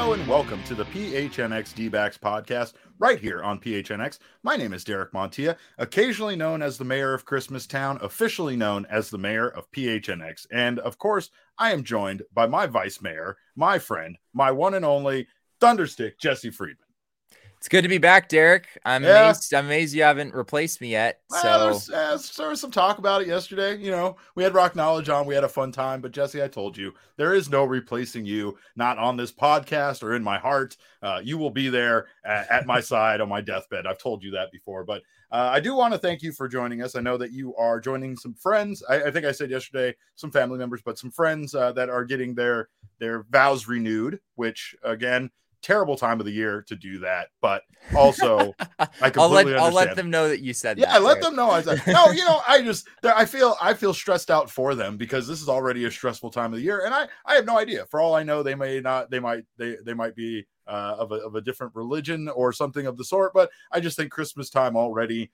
Hello and welcome to the PHNX D-Backs podcast right here on PHNX. My name is Derek Montilla, occasionally known as the mayor of Christmastown, officially known as the mayor of PHNX. And of course, I am joined by my vice mayor, my friend, my one and only Thunderstick, Jesse Friedman. It's good to be back, Derek. I'm amazed you haven't replaced me yet. There was some talk about it yesterday. You know, we had Rock Knowledge on. We had a fun time. But, Jesse, I told you, there is no replacing you, not on this podcast or in my heart. You will be there at my side on my deathbed. I've told you that before. But I do want to thank you for joining us. I know that you are joining some friends. I think I said yesterday, some family members, but some friends that are getting their vows renewed, which, again, terrible time of the year to do that, but also I completely I'll let them know that you said that. Yeah, I let them know. I said, no, you know, I feel stressed out for them because this is already a stressful time of the year, and I have no idea. For all I know, they might be of a different religion or something of the sort, but I just think Christmas time already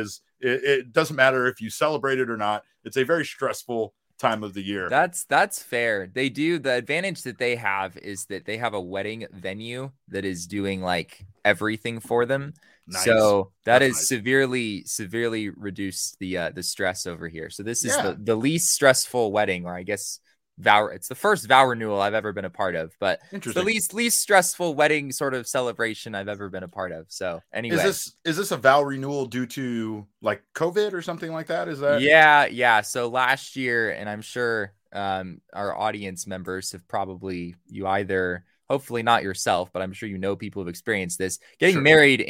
it doesn't matter if you celebrate it or not. It's a very stressful time of the year. That's fair. They do. The advantage that they have is that they have a wedding venue that is doing like everything for them. Nice. So that's nice. severely reduced the stress over here. So this is the least stressful wedding, or I guess it's the first vow renewal I've ever been a part of, but it's the least stressful wedding sort of celebration I've ever been a part of. So anyway, is this a vow renewal due to like COVID or something like that? Is that? Yeah. So last year, and I'm sure our audience members have probably, hopefully not yourself, but I'm sure you know people who've experienced this. Getting married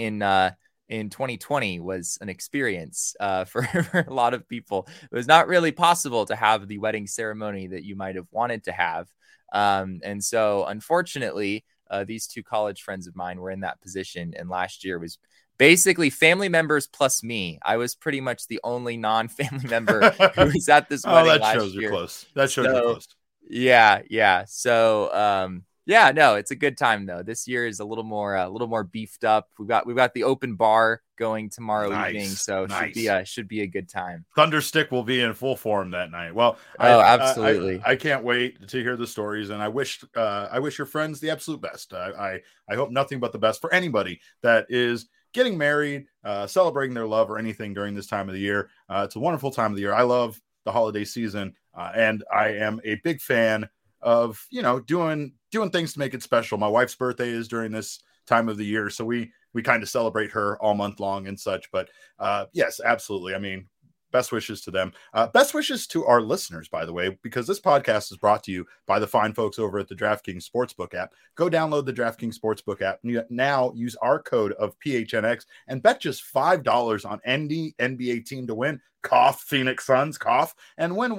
in 2020 was an experience for a lot of people. It was not really possible to have the wedding ceremony that you might have wanted to have. And so unfortunately, these two college friends of mine were in that position. And last year was basically family members plus me. I was pretty much the only non-family member who was at this wedding last year. That shows you're close. Yeah. So, no, it's a good time though. This year is a little more beefed up. We've got the open bar going tomorrow evening, so should be a good time. Thunderstick will be in full form that night. Well, absolutely. I can't wait to hear the stories, and I wish your friends the absolute best. I hope nothing but the best for anybody that is getting married, celebrating their love, or anything during this time of the year. It's a wonderful time of the year. I love the holiday season, and I am a big fan of, you know, doing things to make it special. My wife's birthday is during this time of the year, so we kind of celebrate her all month long and such. But yes, absolutely. I mean, best wishes to them. Best wishes to our listeners, by the way, because this podcast is brought to you by the fine folks over at the DraftKings Sportsbook app. Go download the DraftKings Sportsbook app. Now use our code of PHNX and bet just $5 on any NBA team to win. Cough, Phoenix Suns, cough, and win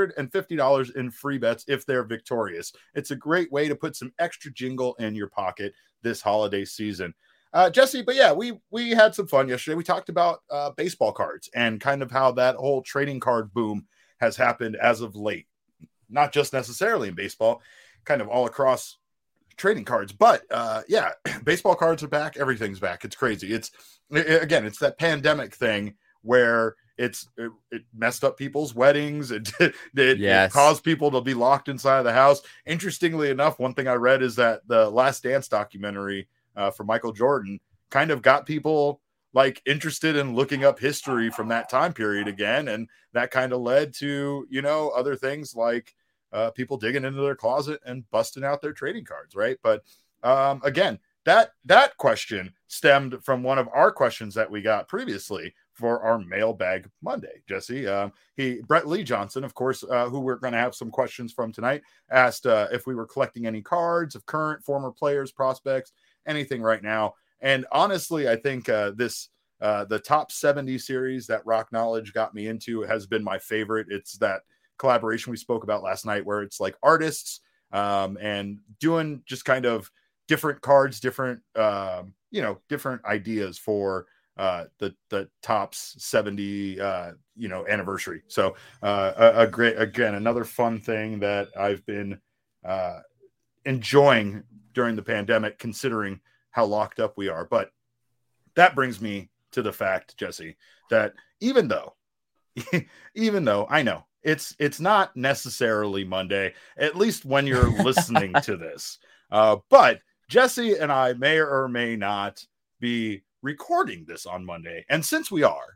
$150 in free bets if they're victorious. It's a great way to put some extra jingle in your pocket this holiday season. Jesse, but yeah, we had some fun yesterday. We talked about baseball cards and kind of how that whole trading card boom has happened as of late. Not just necessarily in baseball, kind of all across trading cards. But yeah, baseball cards are back. Everything's back. It's crazy. It's that pandemic thing where it messed up people's weddings. It caused people to be locked inside of the house. Interestingly enough, one thing I read is that the Last Dance documentary for Michael Jordan kind of got people like interested in looking up history from that time period again. And that kind of led to, you know, other things like people digging into their closet and busting out their trading cards. Right. But again, that question stemmed from one of our questions that we got previously for our Mailbag Monday. Jesse, Brett Lee Johnson, of course, who we're going to have some questions from tonight, asked if we were collecting any cards of current, former players, prospects, anything right now. And honestly, I think the top 70 series that Rock Knowledge got me into has been my favorite. It's that collaboration we spoke about last night where it's like artists and doing just kind of different cards, different different ideas for the Topps 70 anniversary. So another fun thing that I've been enjoying during the pandemic, considering how locked up we are. But that brings me to the fact, Jesse, that even though I know it's not necessarily Monday, at least when you're listening to this, but Jesse and I may or may not be recording this on Monday. And since we are,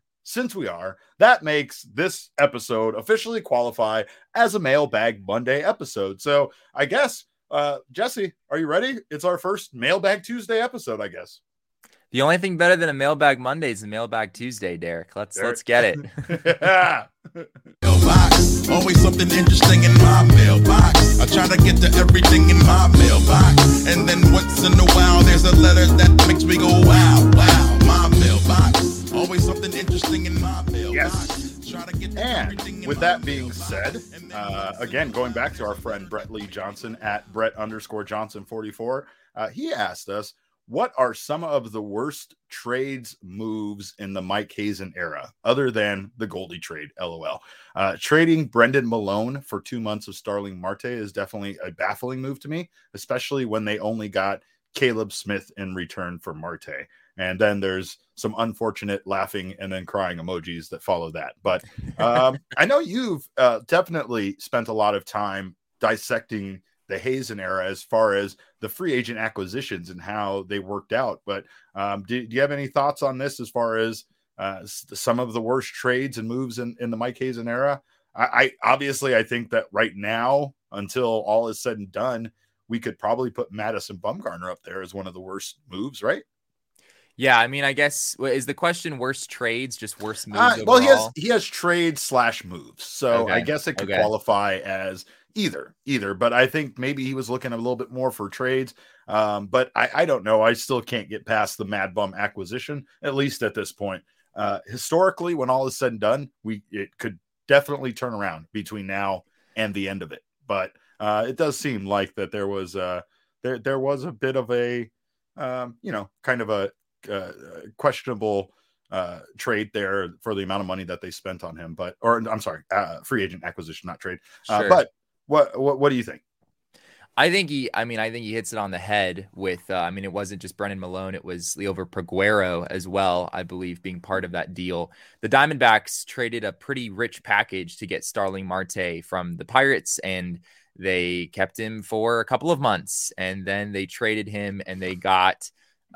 that makes this episode officially qualify as a Mailbag Monday episode. So I guess, Jesse, are you ready? It's our first Mailbag Tuesday episode, I guess. The only thing better than a Mailbag Monday is a Mailbag Tuesday, Derek. Let's get it. Yeah. Mailbox. Always something interesting in my mailbox. I try to get to everything in my mailbox. And then once in a while, there's a letter that makes me go, wow, wow. My mailbox. Always something interesting in my mailbox. Yes. And with that being said, again, going back to our friend Brett Lee Johnson at Brett_Johnson44, he asked us, what are some of the worst trades moves in the Mike Hazen era, other than the Goldie trade, LOL? Trading Brendan Malone for 2 months of Starling Marte is definitely a baffling move to me, especially when they only got Caleb Smith in return for Marte. And then there's some unfortunate laughing and then crying emojis that follow that. But I know you've definitely spent a lot of time dissecting the Hazen era as far as the free agent acquisitions and how they worked out. But do you have any thoughts on this as far as some of the worst trades and moves in the Mike Hazen era? I obviously, I think that right now, until all is said and done, we could probably put Madison Bumgarner up there as one of the worst moves, right? Yeah, I mean, I guess, is the question worst trades, just worst moves overall? Well, he has trades / moves. So Okay. I guess it could qualify as either, but I think maybe he was looking a little bit more for trades. But I don't know. I still can't get past the Mad Bum acquisition, at least at this point. Historically, when all is said and done, it could definitely turn around between now and the end of it. But it does seem like that there was a bit of a kind of a questionable trade there for the amount of money that they spent on him, free agent acquisition, not trade. Sure. But what do you think? I think he hits it on the head with, it wasn't just Brendan Malone. It was Liover Peguero as well, I believe, being part of that deal. The Diamondbacks traded a pretty rich package to get Starling Marte from the Pirates, and they kept him for a couple of months, and then they traded him, and they got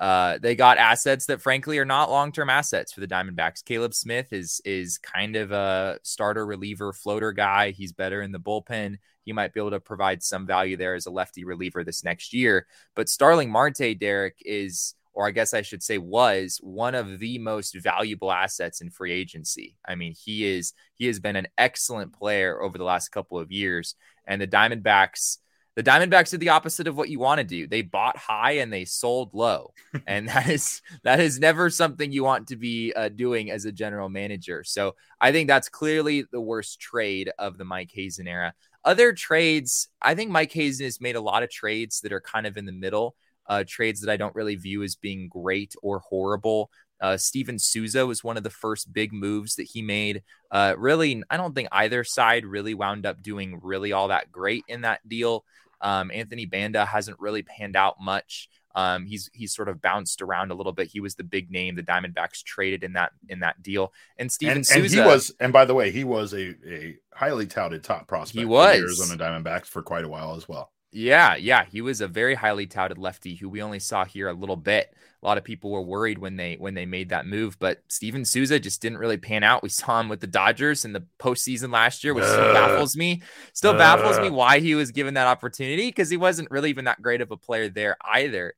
assets that frankly are not long-term assets for the Diamondbacks. Caleb Smith is kind of a starter reliever floater guy. He's better in the bullpen. He might be able to provide some value there as a lefty reliever this next year. But Starling Marte, Derek, is, or I guess I should say was, one of the most valuable assets in free agency. I mean, he has been an excellent player over the last couple of years, and the Diamondbacks did the opposite of what you want to do. They bought high and they sold low. And that is never something you want to be doing as a general manager. So I think that's clearly the worst trade of the Mike Hazen era. Other trades, I think Mike Hazen has made a lot of trades that are kind of in the middle, trades that I don't really view as being great or horrible. Steven Souza was one of the first big moves that he made. Really, I don't think either side really wound up doing really all that great in that deal. Anthony Banda hasn't really panned out much. He's sort of bounced around a little bit. He was the big name the Diamondbacks traded in that deal. And Steven Souza, and by the way, he was a highly touted top prospect. He was for the Arizona Diamondbacks for quite a while as well. Yeah. He was a very highly touted lefty who we only saw here a little bit. A lot of people were worried when they made that move, but Steven Souza just didn't really pan out. We saw him with the Dodgers in the postseason last year, which still baffles me why he was given that opportunity, because he wasn't really even that great of a player there either.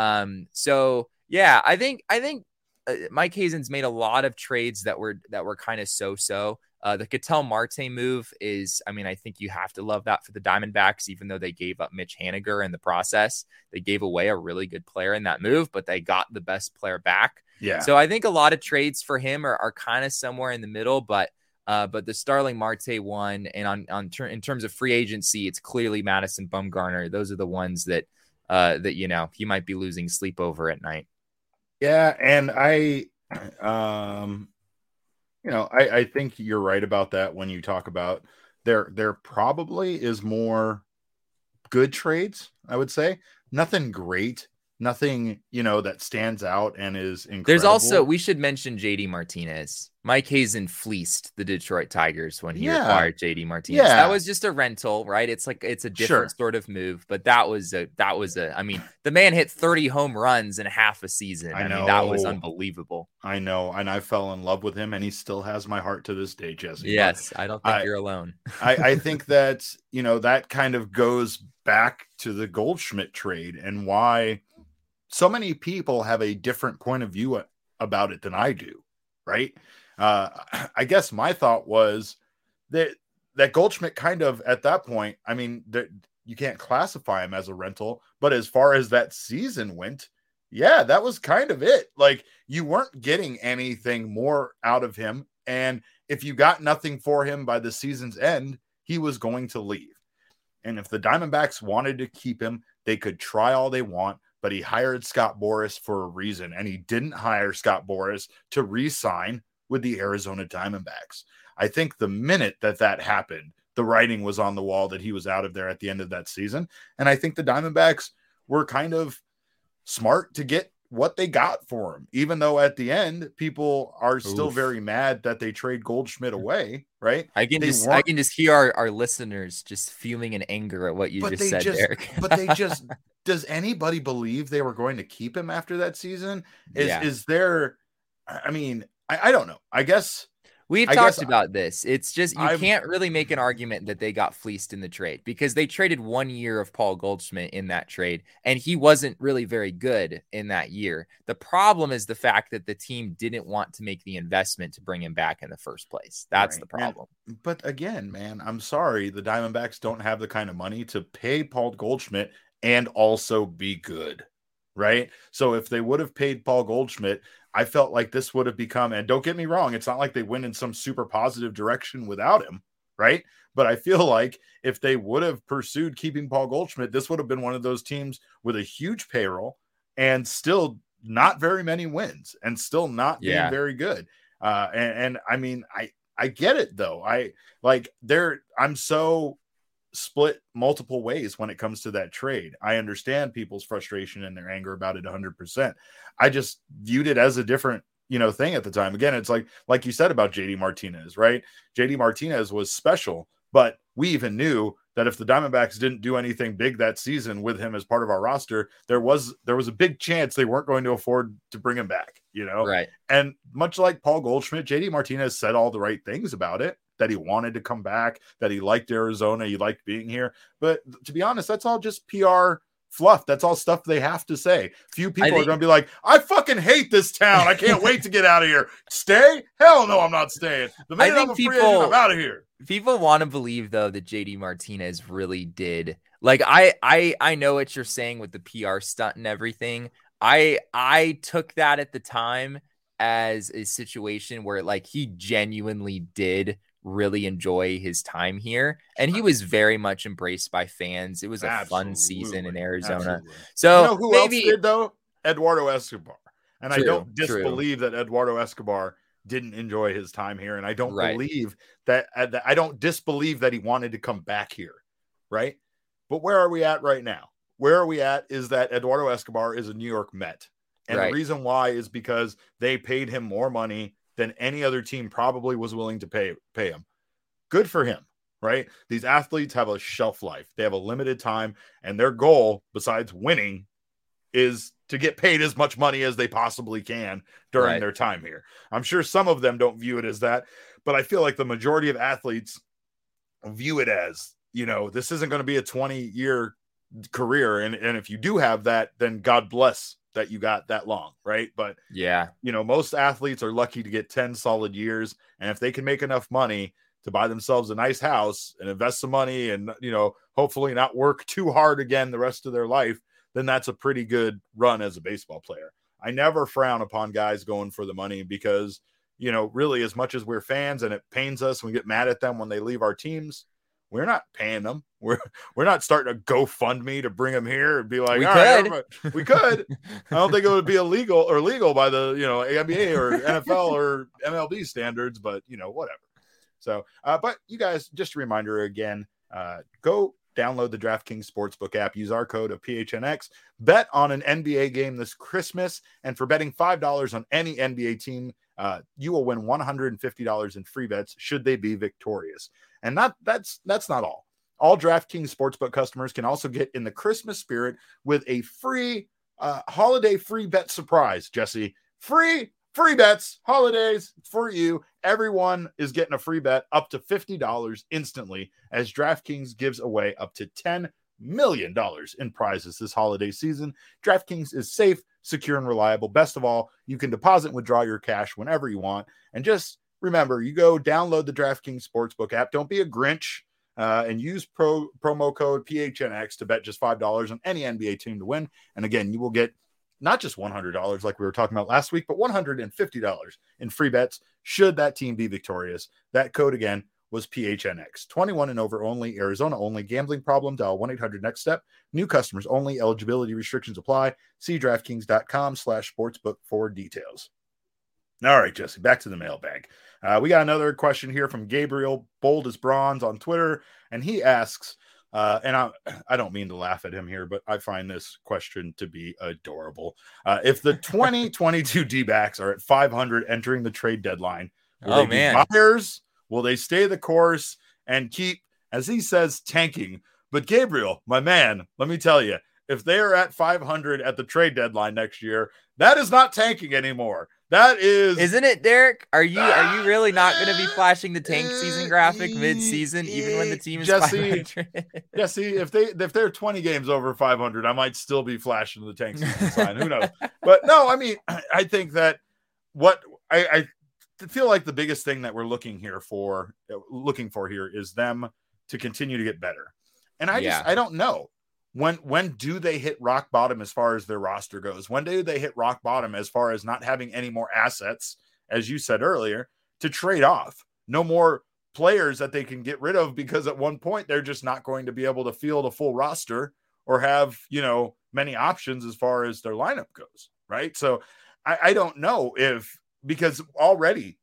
So yeah, I think Mike Hazen's made a lot of trades that were kind of so-so. The Ketel Marte move is, I think you have to love that for the Diamondbacks, even though they gave up Mitch Haniger in the process. They gave away a really good player in that move, but they got the best player back. Yeah. So I think a lot of trades for him are kind of somewhere in the middle, but the Starling Marte one, and in terms of free agency, it's clearly Madison Bumgarner. Those are the ones that he might be losing sleep over at night. Yeah, and I think you're right about that when you talk about there probably is more good trades, I would say. Nothing great nothing, that stands out and is incredible. There's also, we should mention JD Martinez. Mike Hazen fleeced the Detroit Tigers when he acquired JD Martinez. Yeah. That was just a rental, right? It's a different sort of move, but that was I mean, the man hit 30 home runs in half a season. I mean, that was unbelievable. I know. And I fell in love with him, and he still has my heart to this day, Jesse. Yes. I don't think you're alone. I think that, that kind of goes back to the Goldschmidt trade and why so many people have a different point of view about it than I do. Right. I guess my thought was that Goldschmidt kind of, at that point, I mean, you can't classify him as a rental, but as far as that season went, yeah, that was kind of it. Like, you weren't getting anything more out of him. And if you got nothing for him by the season's end, he was going to leave. And if the Diamondbacks wanted to keep him, they could try all they want, but he hired Scott Boras for a reason. And he didn't hire Scott Boras to re-sign with the Arizona Diamondbacks. I think the minute that happened, the writing was on the wall that he was out of there at the end of that season. And I think the Diamondbacks were kind of smart to get what they got for him, even though at the end people are still very mad that they trade Goldschmidt away. Right. I can just hear our listeners just fuming in anger at what you just said, Derek. But they just, does anybody believe they were going to keep him after that season? Is there, I mean, I don't know. I guess we've talked about this. It's just, you can't really make an argument that they got fleeced in the trade, because they traded 1 year of Paul Goldschmidt in that trade, and he wasn't really very good in that year. The problem is the fact that the team didn't want to make the investment to bring him back in the first place. That's the problem. But again, man, I'm sorry. The Diamondbacks don't have the kind of money to pay Paul Goldschmidt and also be good. Right. So if they would have paid Paul Goldschmidt, I felt like this would have become, and don't get me wrong, it's not like they went in some super positive direction without him. Right. But I feel like if they would have pursued keeping Paul Goldschmidt, this would have been one of those teams with a huge payroll and still not very many wins and still not being very good. And I mean, I get it though. I'm so split multiple ways when it comes to that trade. I understand people's frustration and their anger about it 100%. I just viewed it as a different, thing at the time. Again, it's like you said about JD Martinez, right? JD Martinez was special, but we even knew that if the Diamondbacks didn't do anything big that season with him as part of our roster, there was a big chance they weren't going to afford to bring him back, Right. And much like Paul Goldschmidt, JD Martinez said all the right things about it, that he wanted to come back, that he liked Arizona, he liked being here. But to be honest, that's all just PR fluff. That's all stuff they have to say. Few people are going to be like, I fucking hate this town. I can't wait to get out of here. Stay? Hell no, I'm not staying. The minute I'm a free agent, I'm out of here. People want to believe, though, that JD Martinez really did. Like, I know what you're saying with the PR stunt and everything. I took that at the time as a situation where, like, he genuinely did really enjoy his time here, and he was very much embraced by fans. It was a fun season in Arizona. Absolutely. So who else did though? Eduardo Escobar. And I don't disbelieve that Eduardo Escobar didn't enjoy his time here, and I don't believe that I don't disbelieve that he wanted to come back here, right? But where are we at right now? Where are we at is that Eduardo Escobar is a New York Met, and the reason why is because they paid him more money than any other team probably was willing to pay him. Good for him, right? These athletes have a shelf life. They have a limited time, and their goal, besides winning, is to get paid as much money as they possibly can during their time here. I'm sure some of them don't view it as that, but I feel like the majority of athletes view it as, this isn't going to be a 20-year career. And if you do have that, then God bless that you got that long, right? But most athletes are lucky to get 10 solid years, and if they can make enough money to buy themselves a nice house and invest some money and hopefully not work too hard again the rest of their life, then that's a pretty good run as a baseball player. I never frown upon guys going for the money because really, as much as we're fans and it pains us, we get mad at them when they leave our teams, we're not paying them. We're not starting a GoFundMe to bring them here and be like, we could. I don't think it would be illegal or legal by the NBA or NFL or MLB standards, but whatever. So, but you guys, just a reminder again, go download the DraftKings Sportsbook app, use our code of PHNX, bet on an NBA game this Christmas, and for betting $5 on any NBA team, you will win $150 in free bets should they be victorious. And that's not all. All DraftKings Sportsbook customers can also get in the Christmas spirit with a free holiday free bet surprise, Jesse. Free bets, holidays for you. Everyone is getting a free bet up to $50 instantly as DraftKings gives away up to $10 million in prizes this holiday season. DraftKings is safe, secure, and reliable. Best of all, you can deposit and withdraw your cash whenever you want. And just remember, you go download the DraftKings Sportsbook app. Don't be a Grinch and use promo code PHNX to bet just $5 on any NBA team to win. And again, you will get not just $100 like we were talking about last week, but $150 in free bets should that team be victorious. That code again was PHNX. 21 and over only, Arizona only. Gambling problem, dial 1-800-NEXT-STEP. New customers only. Eligibility restrictions apply. See DraftKings.com/sportsbook for details. All right, Jesse, back to the mailbag. We got another question here from Gabriel, bold as bronze on Twitter, and he asks, and I don't mean to laugh at him here, but I find this question to be adorable. If the 2022 D-backs are at 500 entering the trade deadline, will they be buyers? Will they stay the course and keep, as he says, tanking? But Gabriel, my man, let me tell you, if they are at 500 at the trade deadline next year, that is not tanking anymore. That is, isn't it, Derek? Are you really not going to be flashing the tank season graphic mid-season, even when the team is 500? Jesse, if they're 20 games over 500, I might still be flashing the tank season sign. Who knows? But no, I mean, I think that what I feel like the biggest thing that we're looking for here is them to continue to get better. And I don't know. When do they hit rock bottom as far as their roster goes? When do they hit rock bottom as far as not having any more assets, as you said earlier, to trade off? No more players that they can get rid of because at one point they're just not going to be able to field a full roster or have, many options as far as their lineup goes, right? So I don't know because already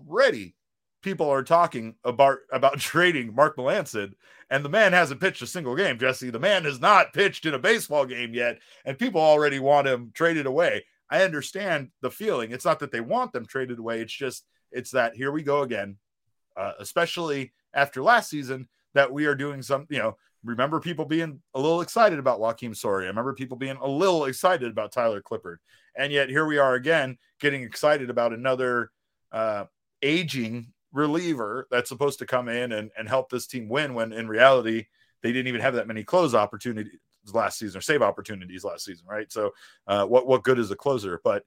people are talking about trading Mark Melancon, and the man hasn't pitched a single game, Jesse. The man has not pitched in a baseball game yet, and people already want him traded away. I understand the feeling. It's not that they want them traded away. It's that here we go again, especially after last season, that we are doing some, remember people being a little excited about Joakim Soria. I remember people being a little excited about Tyler Clippard. And yet here we are again, getting excited about another aging reliever that's supposed to come in and help this team win, when in reality they didn't even have that many close opportunities last season or save opportunities last season, right? So what good is a closer? But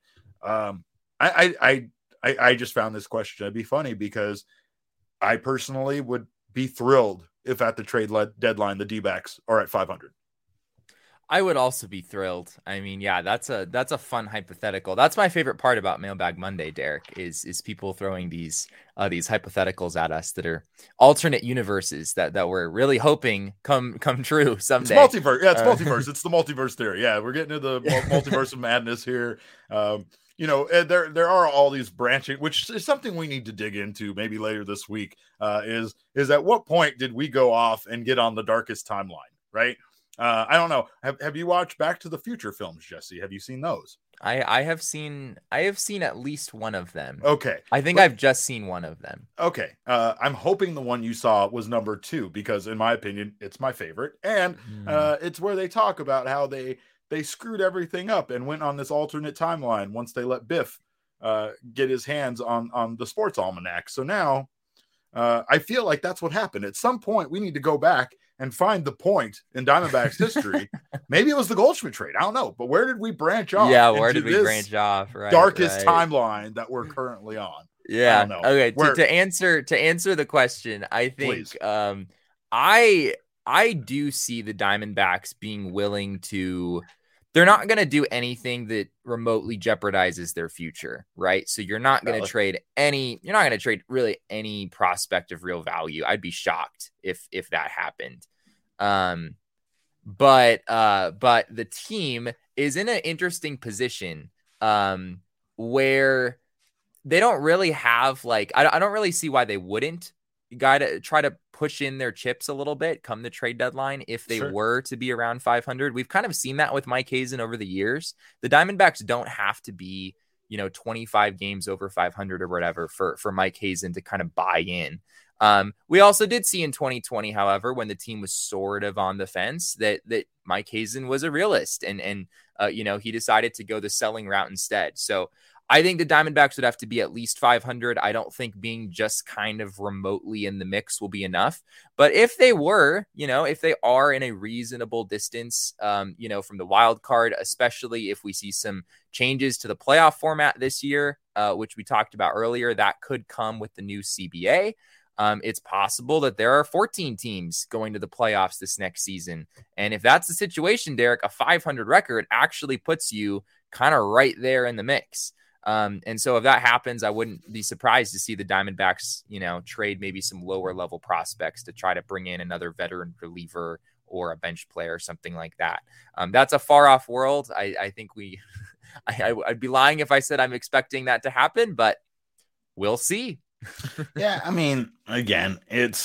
I just found this question to be funny because I personally would be thrilled if at the trade deadline the D-backs are at 500. I would also be thrilled. I mean, yeah, that's a fun hypothetical. That's my favorite part about Mailbag Monday, Derek, is people throwing these hypotheticals at us that are alternate universes that we're really hoping come true someday. It's multiverse. Yeah, it's multiverse. It's the multiverse theory. Yeah, we're getting into the multiverse of madness here. There are all these branching, which is something we need to dig into maybe later this week. Is at what point did we go off and get on the darkest timeline, right? I don't know. Have you watched Back to the Future films, Jesse? Have you seen those? I have seen at least one of them. Okay. I think I've just seen one of them. Okay. I'm hoping the one you saw was number 2, because in my opinion, it's my favorite. And it's where they talk about how they screwed everything up and went on this alternate timeline once they let Biff get his hands on the sports almanac. So now I feel like that's what happened. At some point, we need to go back and find the point in Diamondbacks history. Maybe it was the Goldschmidt trade. I don't know. But where did we branch off? Yeah, where did we branch off? Right, darkest timeline that we're currently on. Yeah. Okay. To answer the question, I think I do see the Diamondbacks being willing to. They're not going to do anything that remotely jeopardizes their future, right? So you're not going to trade really any prospect of real value. I'd be shocked if that happened. But the team is in an interesting position where they don't really have I don't really see why they wouldn't you got to try to push in their chips a little bit come the trade deadline if they were to be around 500. We've kind of seen that with Mike Hazen over the years. The Diamondbacks don't have to be, 25 games over 500 or whatever for Mike Hazen to kind of buy in. We also did see in 2020, however, when the team was sort of on the fence, that Mike Hazen was a realist and he decided to go the selling route instead. So I think the Diamondbacks would have to be at least 500. I don't think being just kind of remotely in the mix will be enough. But if they were, if they are in a reasonable distance, from the wild card, especially if we see some changes to the playoff format this year, which we talked about earlier, that could come with the new CBA. It's possible that there are 14 teams going to the playoffs this next season. And if that's the situation, Derek, a 500 record actually puts you kind of right there in the mix. And so if that happens, I wouldn't be surprised to see the Diamondbacks, trade maybe some lower level prospects to try to bring in another veteran reliever or a bench player or something like that. That's a far off world. I think I'd be lying if I said I'm expecting that to happen, but we'll see. Yeah, I mean, again,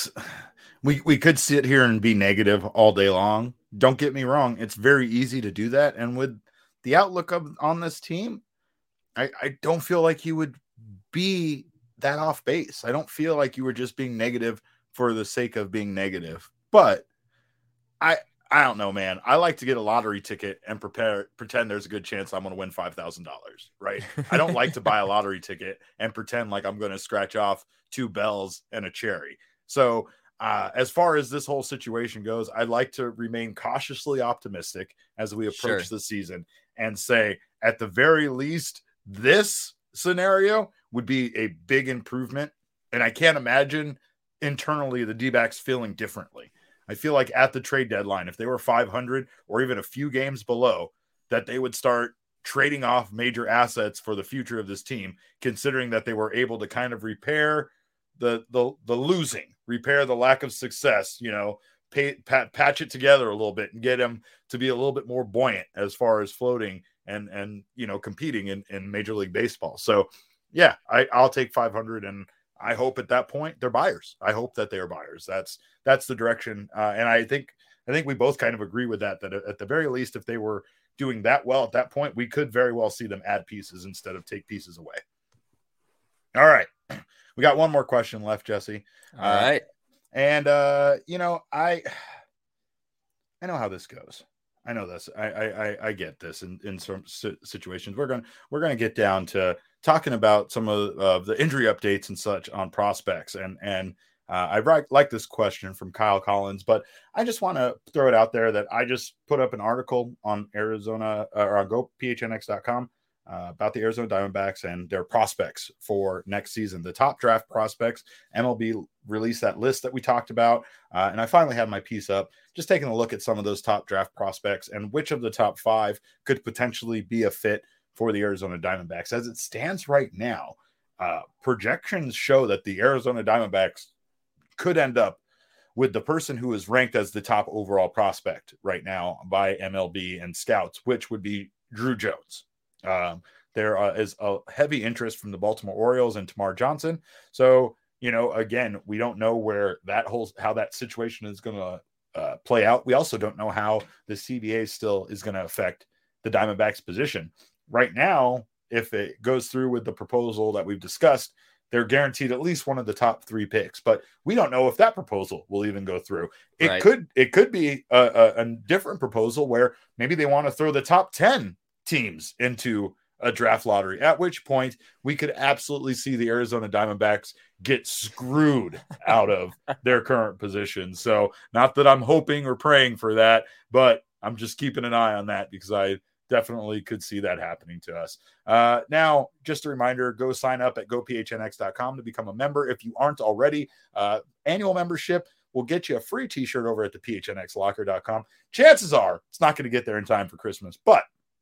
we could sit here and be negative all day long. Don't get me wrong, it's very easy to do that. And with the outlook on this team, I don't feel like you would be that off base. I don't feel like you were just being negative for the sake of being negative. But I don't know, man. I like to get a lottery ticket and pretend there's a good chance I'm going to win $5,000, right? I don't like to buy a lottery ticket and pretend like I'm going to scratch off 2 bells and a cherry. So as far as this whole situation goes, I'd like to remain cautiously optimistic as we approach the season and say, at the very least, this scenario would be a big improvement. And I can't imagine internally the D-backs feeling differently. I feel like at the trade deadline, if they were 500 or even a few games below, that they would start trading off major assets for the future of this team, considering that they were able to kind of repair the losing, repair the lack of success, patch it together a little bit and get him to be a little bit more buoyant as far as floating and competing in Major League Baseball. So yeah, I'll take 500, and I hope at that point they're buyers. I hope that they are buyers. That's the direction. And I think we both kind of agree with that at the very least, if they were doing that well at that point, we could very well see them add pieces instead of take pieces away. All right. We got one more question left, Jesse. All right. And I know how this goes. I know this. I get this in some situations. We're going to get down to talking about some of the injury updates and such on prospects. And I like this question from Kyle Collins, but I just want to throw it out there that I just put up an article on Arizona or on GoPHNX.com about the Arizona Diamondbacks and their prospects for next season, the top draft prospects. MLB released that list that we talked about. And I finally have my piece up, just taking a look at some of those top draft prospects and which of the top 5 could potentially be a fit for the Arizona Diamondbacks. As it stands right now, projections show that the Arizona Diamondbacks could end up with the person who is ranked as the top overall prospect right now by MLB and scouts, which would be Drew Jones. There is a heavy interest from the Baltimore Orioles and Tamar Johnson. So, again, we don't know how that situation is going to play out. We also don't know how the CBA still is going to affect the Diamondbacks position. Right now, if it goes through with the proposal that we've discussed, they're guaranteed at least one of the top 3 picks, but we don't know if that proposal will even go through. It could be a different proposal where maybe they want to throw the top 10 teams into a draft lottery, at which point we could absolutely see the Arizona Diamondbacks get screwed out of their current position. So not that I'm hoping or praying for that, but I'm just keeping an eye on that because I definitely could see that happening to us. Now, just a reminder, go sign up at gophnx.com to become a member. If you aren't already, annual membership will get you a free t-shirt over at the phnxlocker.com. Chances are it's not going to get there in time for Christmas, but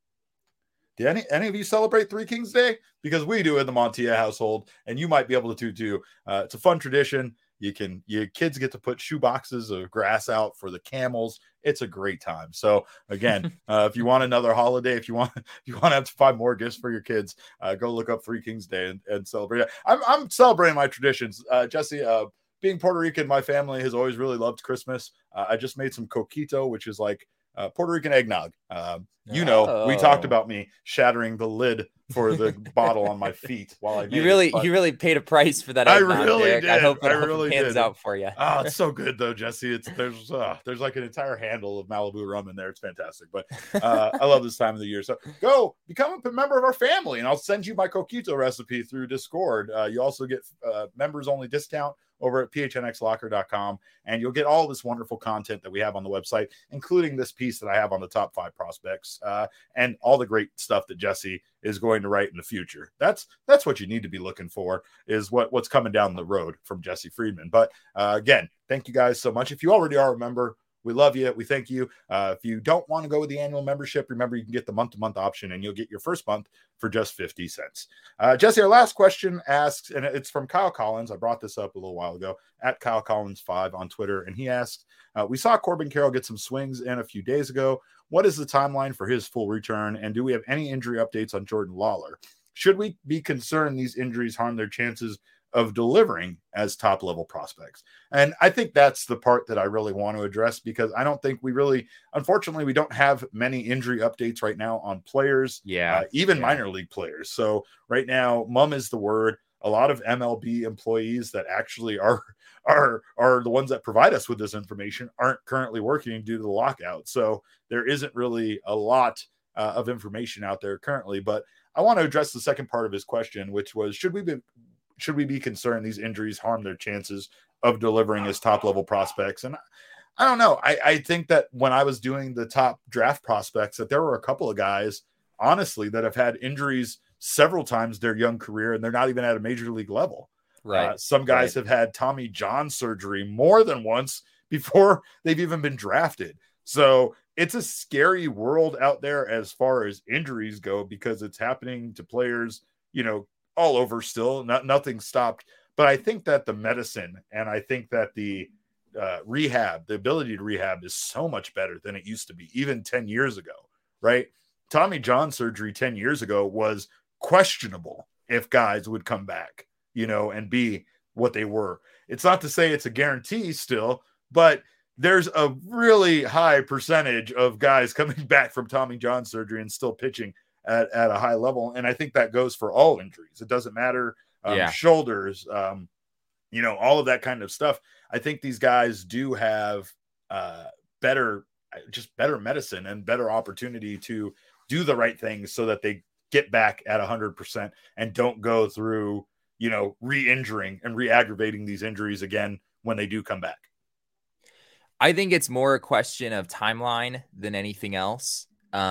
do any of you celebrate Three Kings Day? Because we do in the Montilla household, and you might be able to too. It's a fun tradition. Your kids get to put shoe boxes of grass out for the camels. It's a great time. So again, if you want another holiday, if you want to have to find more gifts for your kids, go look up Three Kings Day and celebrate it. I'm celebrating my traditions. Jesse, being Puerto Rican, my family has always really loved Christmas. I just made some coquito, which is like Puerto Rican eggnog. We talked about me shattering the lid for the bottle on my feet while I made you really paid a price for that eggnog, I really Derek. did. I hope it really pans out for you. Oh, it's so good though, Jesse. There's like an entire handle of Malibu rum in there. It's fantastic. But I love this time of the year. So go become a member of our family, and I'll send you my coquito recipe through Discord. You also get members only discount over at phnxlocker.com, and you'll get all this wonderful content that we have on the website, including this piece that I have on the top 5 prospects, and all the great stuff that Jesse is going to write in the future. That's what you need to be looking for, is what's coming down the road from Jesse Friedman. But again, thank you guys so much. If you already are a member, we love you. We thank you. If you don't want to go with the annual membership, remember you can get the month-to-month option, and you'll get your first month for just 50 cents. Jesse, our last question asks, and it's from Kyle Collins. I brought this up a little while ago at Kyle Collins 5 on Twitter, and he asked, we saw Corbin Carroll get some swings in a few days ago. What is the timeline for his full return, and do we have any injury updates on Jordan Lawler? Should we be concerned these injuries harm their chances of delivering as top-level prospects? And I think that's the part that I really want to address, because I don't think unfortunately, we don't have many injury updates right now on players, even minor league players. So right now, mum is the word. A lot of MLB employees that actually are the ones that provide us with this information aren't currently working due to the lockout. So there isn't really a lot of information out there currently. But I want to address the second part of his question, which was, should we be concerned these injuries harm their chances of delivering as top-level prospects? And I don't know. I think that when I was doing the top draft prospects, that there were a couple of guys, honestly, that have had injuries several times their young career, and they're not even at a major league level. Right. Some guys have had Tommy John surgery more than once before they've even been drafted. So it's a scary world out there as far as injuries go, because it's happening to players, all over still. Nothing stopped. But I think that the medicine, and I think that the rehab, the ability to rehab, is so much better than it used to be, even 10 years ago, right? Tommy John surgery 10 years ago was questionable if guys would come back, and be what they were. It's not to say it's a guarantee still, but there's a really high percentage of guys coming back from Tommy John surgery and still pitching at a high level. And I think that goes for all injuries. It doesn't matter, shoulders, all of that kind of stuff. I think these guys do have better medicine and better opportunity to do the right things so that they get back at 100% and don't go through, re-injuring and re-aggravating these injuries again when they do come back. I think it's more a question of timeline than anything else.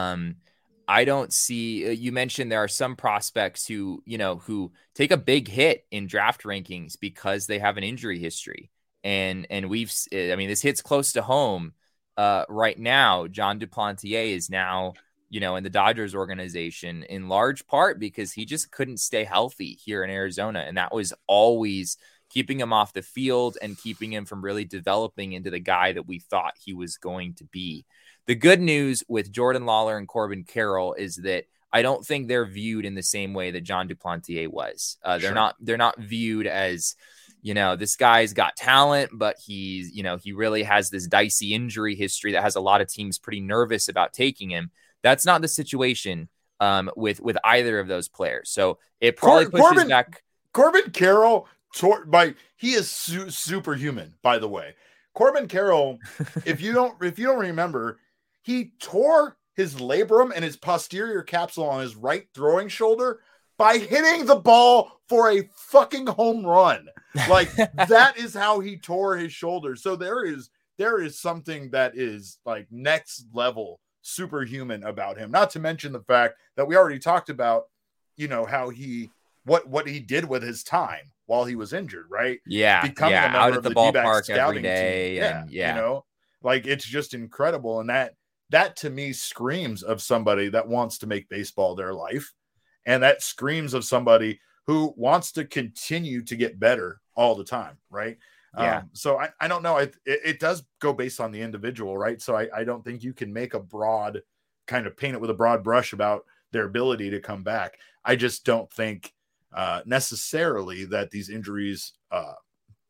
I don't see, you mentioned there are some prospects who take a big hit in draft rankings because they have an injury history. And this hits close to home right now. John Duplantier is now, in the Dodgers organization, in large part because he just couldn't stay healthy here in Arizona. And that was always keeping him off the field and keeping him from really developing into the guy that we thought he was going to be. The good news with Jordan Lawler and Corbin Carroll is that I don't think they're viewed in the same way that John Duplantier was. They're not viewed as, this guy's got talent, but he's, he really has this dicey injury history that has a lot of teams pretty nervous about taking him. That's not the situation with either of those players. So it probably pushes back. Corbin Carroll, he is superhuman, by the way. Corbin Carroll, if you don't remember, he tore his labrum and his posterior capsule on his right throwing shoulder by hitting the ball for a fucking home run. Like, that is how he tore his shoulder. So there is something that is like next level superhuman about him. Not to mention the fact that we already talked about, how what he did with his time while he was injured, right? Yeah. Becoming a member out at of the D-backs ballpark every day. team. Like, it's just incredible. And that to me screams of somebody that wants to make baseball their life. And that screams of somebody who wants to continue to get better all the time. Right. Yeah. So I don't know. It does go based on the individual. Right. So I don't think you can make a broad kind of paint it with a broad brush about their ability to come back. I just don't think necessarily that these injuries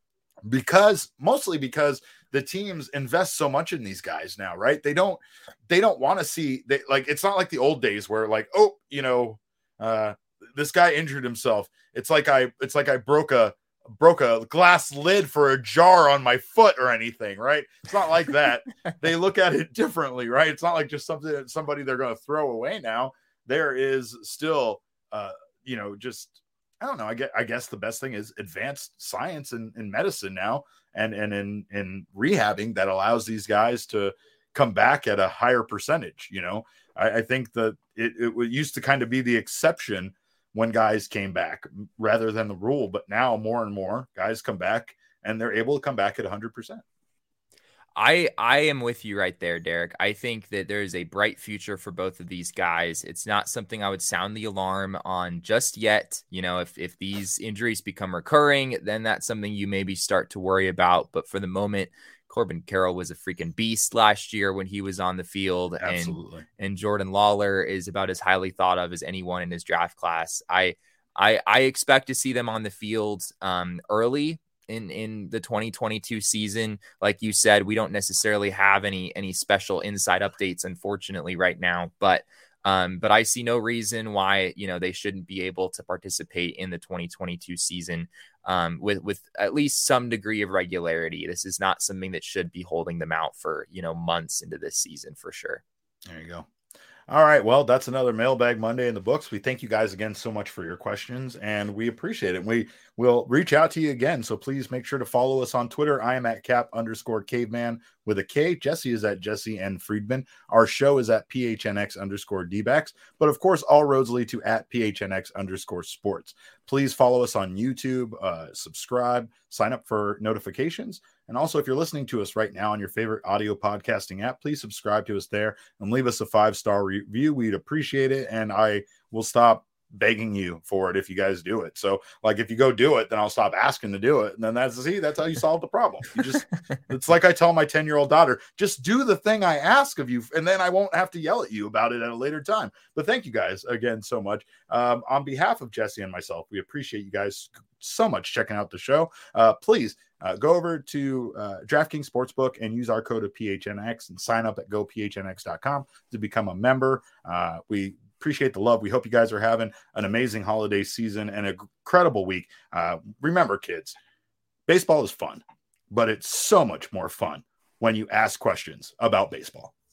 mostly because the teams invest so much in these guys now, right? They don't want to see it's not like the old days where like, oh, this guy injured himself. It's like I broke a glass lid for a jar on my foot or anything, right? It's not like that. They look at it differently, right? It's not like just somebody they're going to throw away now. There is still, just, I don't know. I guess the best thing is advanced science in medicine now and in rehabbing that allows these guys to come back at a higher percentage. I think that it used to kind of be the exception when guys came back rather than the rule. But now more and more guys come back and they're able to come back at 100%. I am with you right there, Derek. I think that there is a bright future for both of these guys. It's not something I would sound the alarm on just yet. If these injuries become recurring, then that's something you maybe start to worry about. But for the moment, Corbin Carroll was a freaking beast last year when he was on the field. Absolutely. And Jordan Lawler is about as highly thought of as anyone in his draft class. I expect to see them on the field early in the 2022 season. Like you said, we don't necessarily have any special inside updates, unfortunately, right now. But I see no reason why, they shouldn't be able to participate in the 2022 season with at least some degree of regularity. This is not something that should be holding them out for, months into this season for sure. There you go. All right. Well, that's another Mailbag Monday in the books. We thank you guys again so much for your questions, and we appreciate it. We will reach out to you again. So please make sure to follow us on Twitter. I am at Cap_caveman with a K. Jesse is at Jesse N. Friedman. Our show is at PHNX_DBacks. But of course, all roads lead to at PHNX_sports. Please follow us on YouTube, subscribe, sign up for notifications. And also, if you're listening to us right now on your favorite audio podcasting app, please subscribe to us there and leave us a 5-star review. We'd appreciate it. And I will stop begging you for it if you guys do it. So like if you go do it, then I'll stop asking to do it. And then that's how you solve the problem. It's like I tell my 10-year-old daughter, just do the thing I ask of you, and then I won't have to yell at you about it at a later time. But thank you guys again so much. On behalf of Jesse and myself, we appreciate you guys so much checking out the show. Please go over to DraftKings Sportsbook and use our code of PHNX and sign up at gophnx.com to become a member. We appreciate the love. We hope you guys are having an amazing holiday season and an incredible week. Remember, kids, baseball is fun, but it's so much more fun when you ask questions about baseball.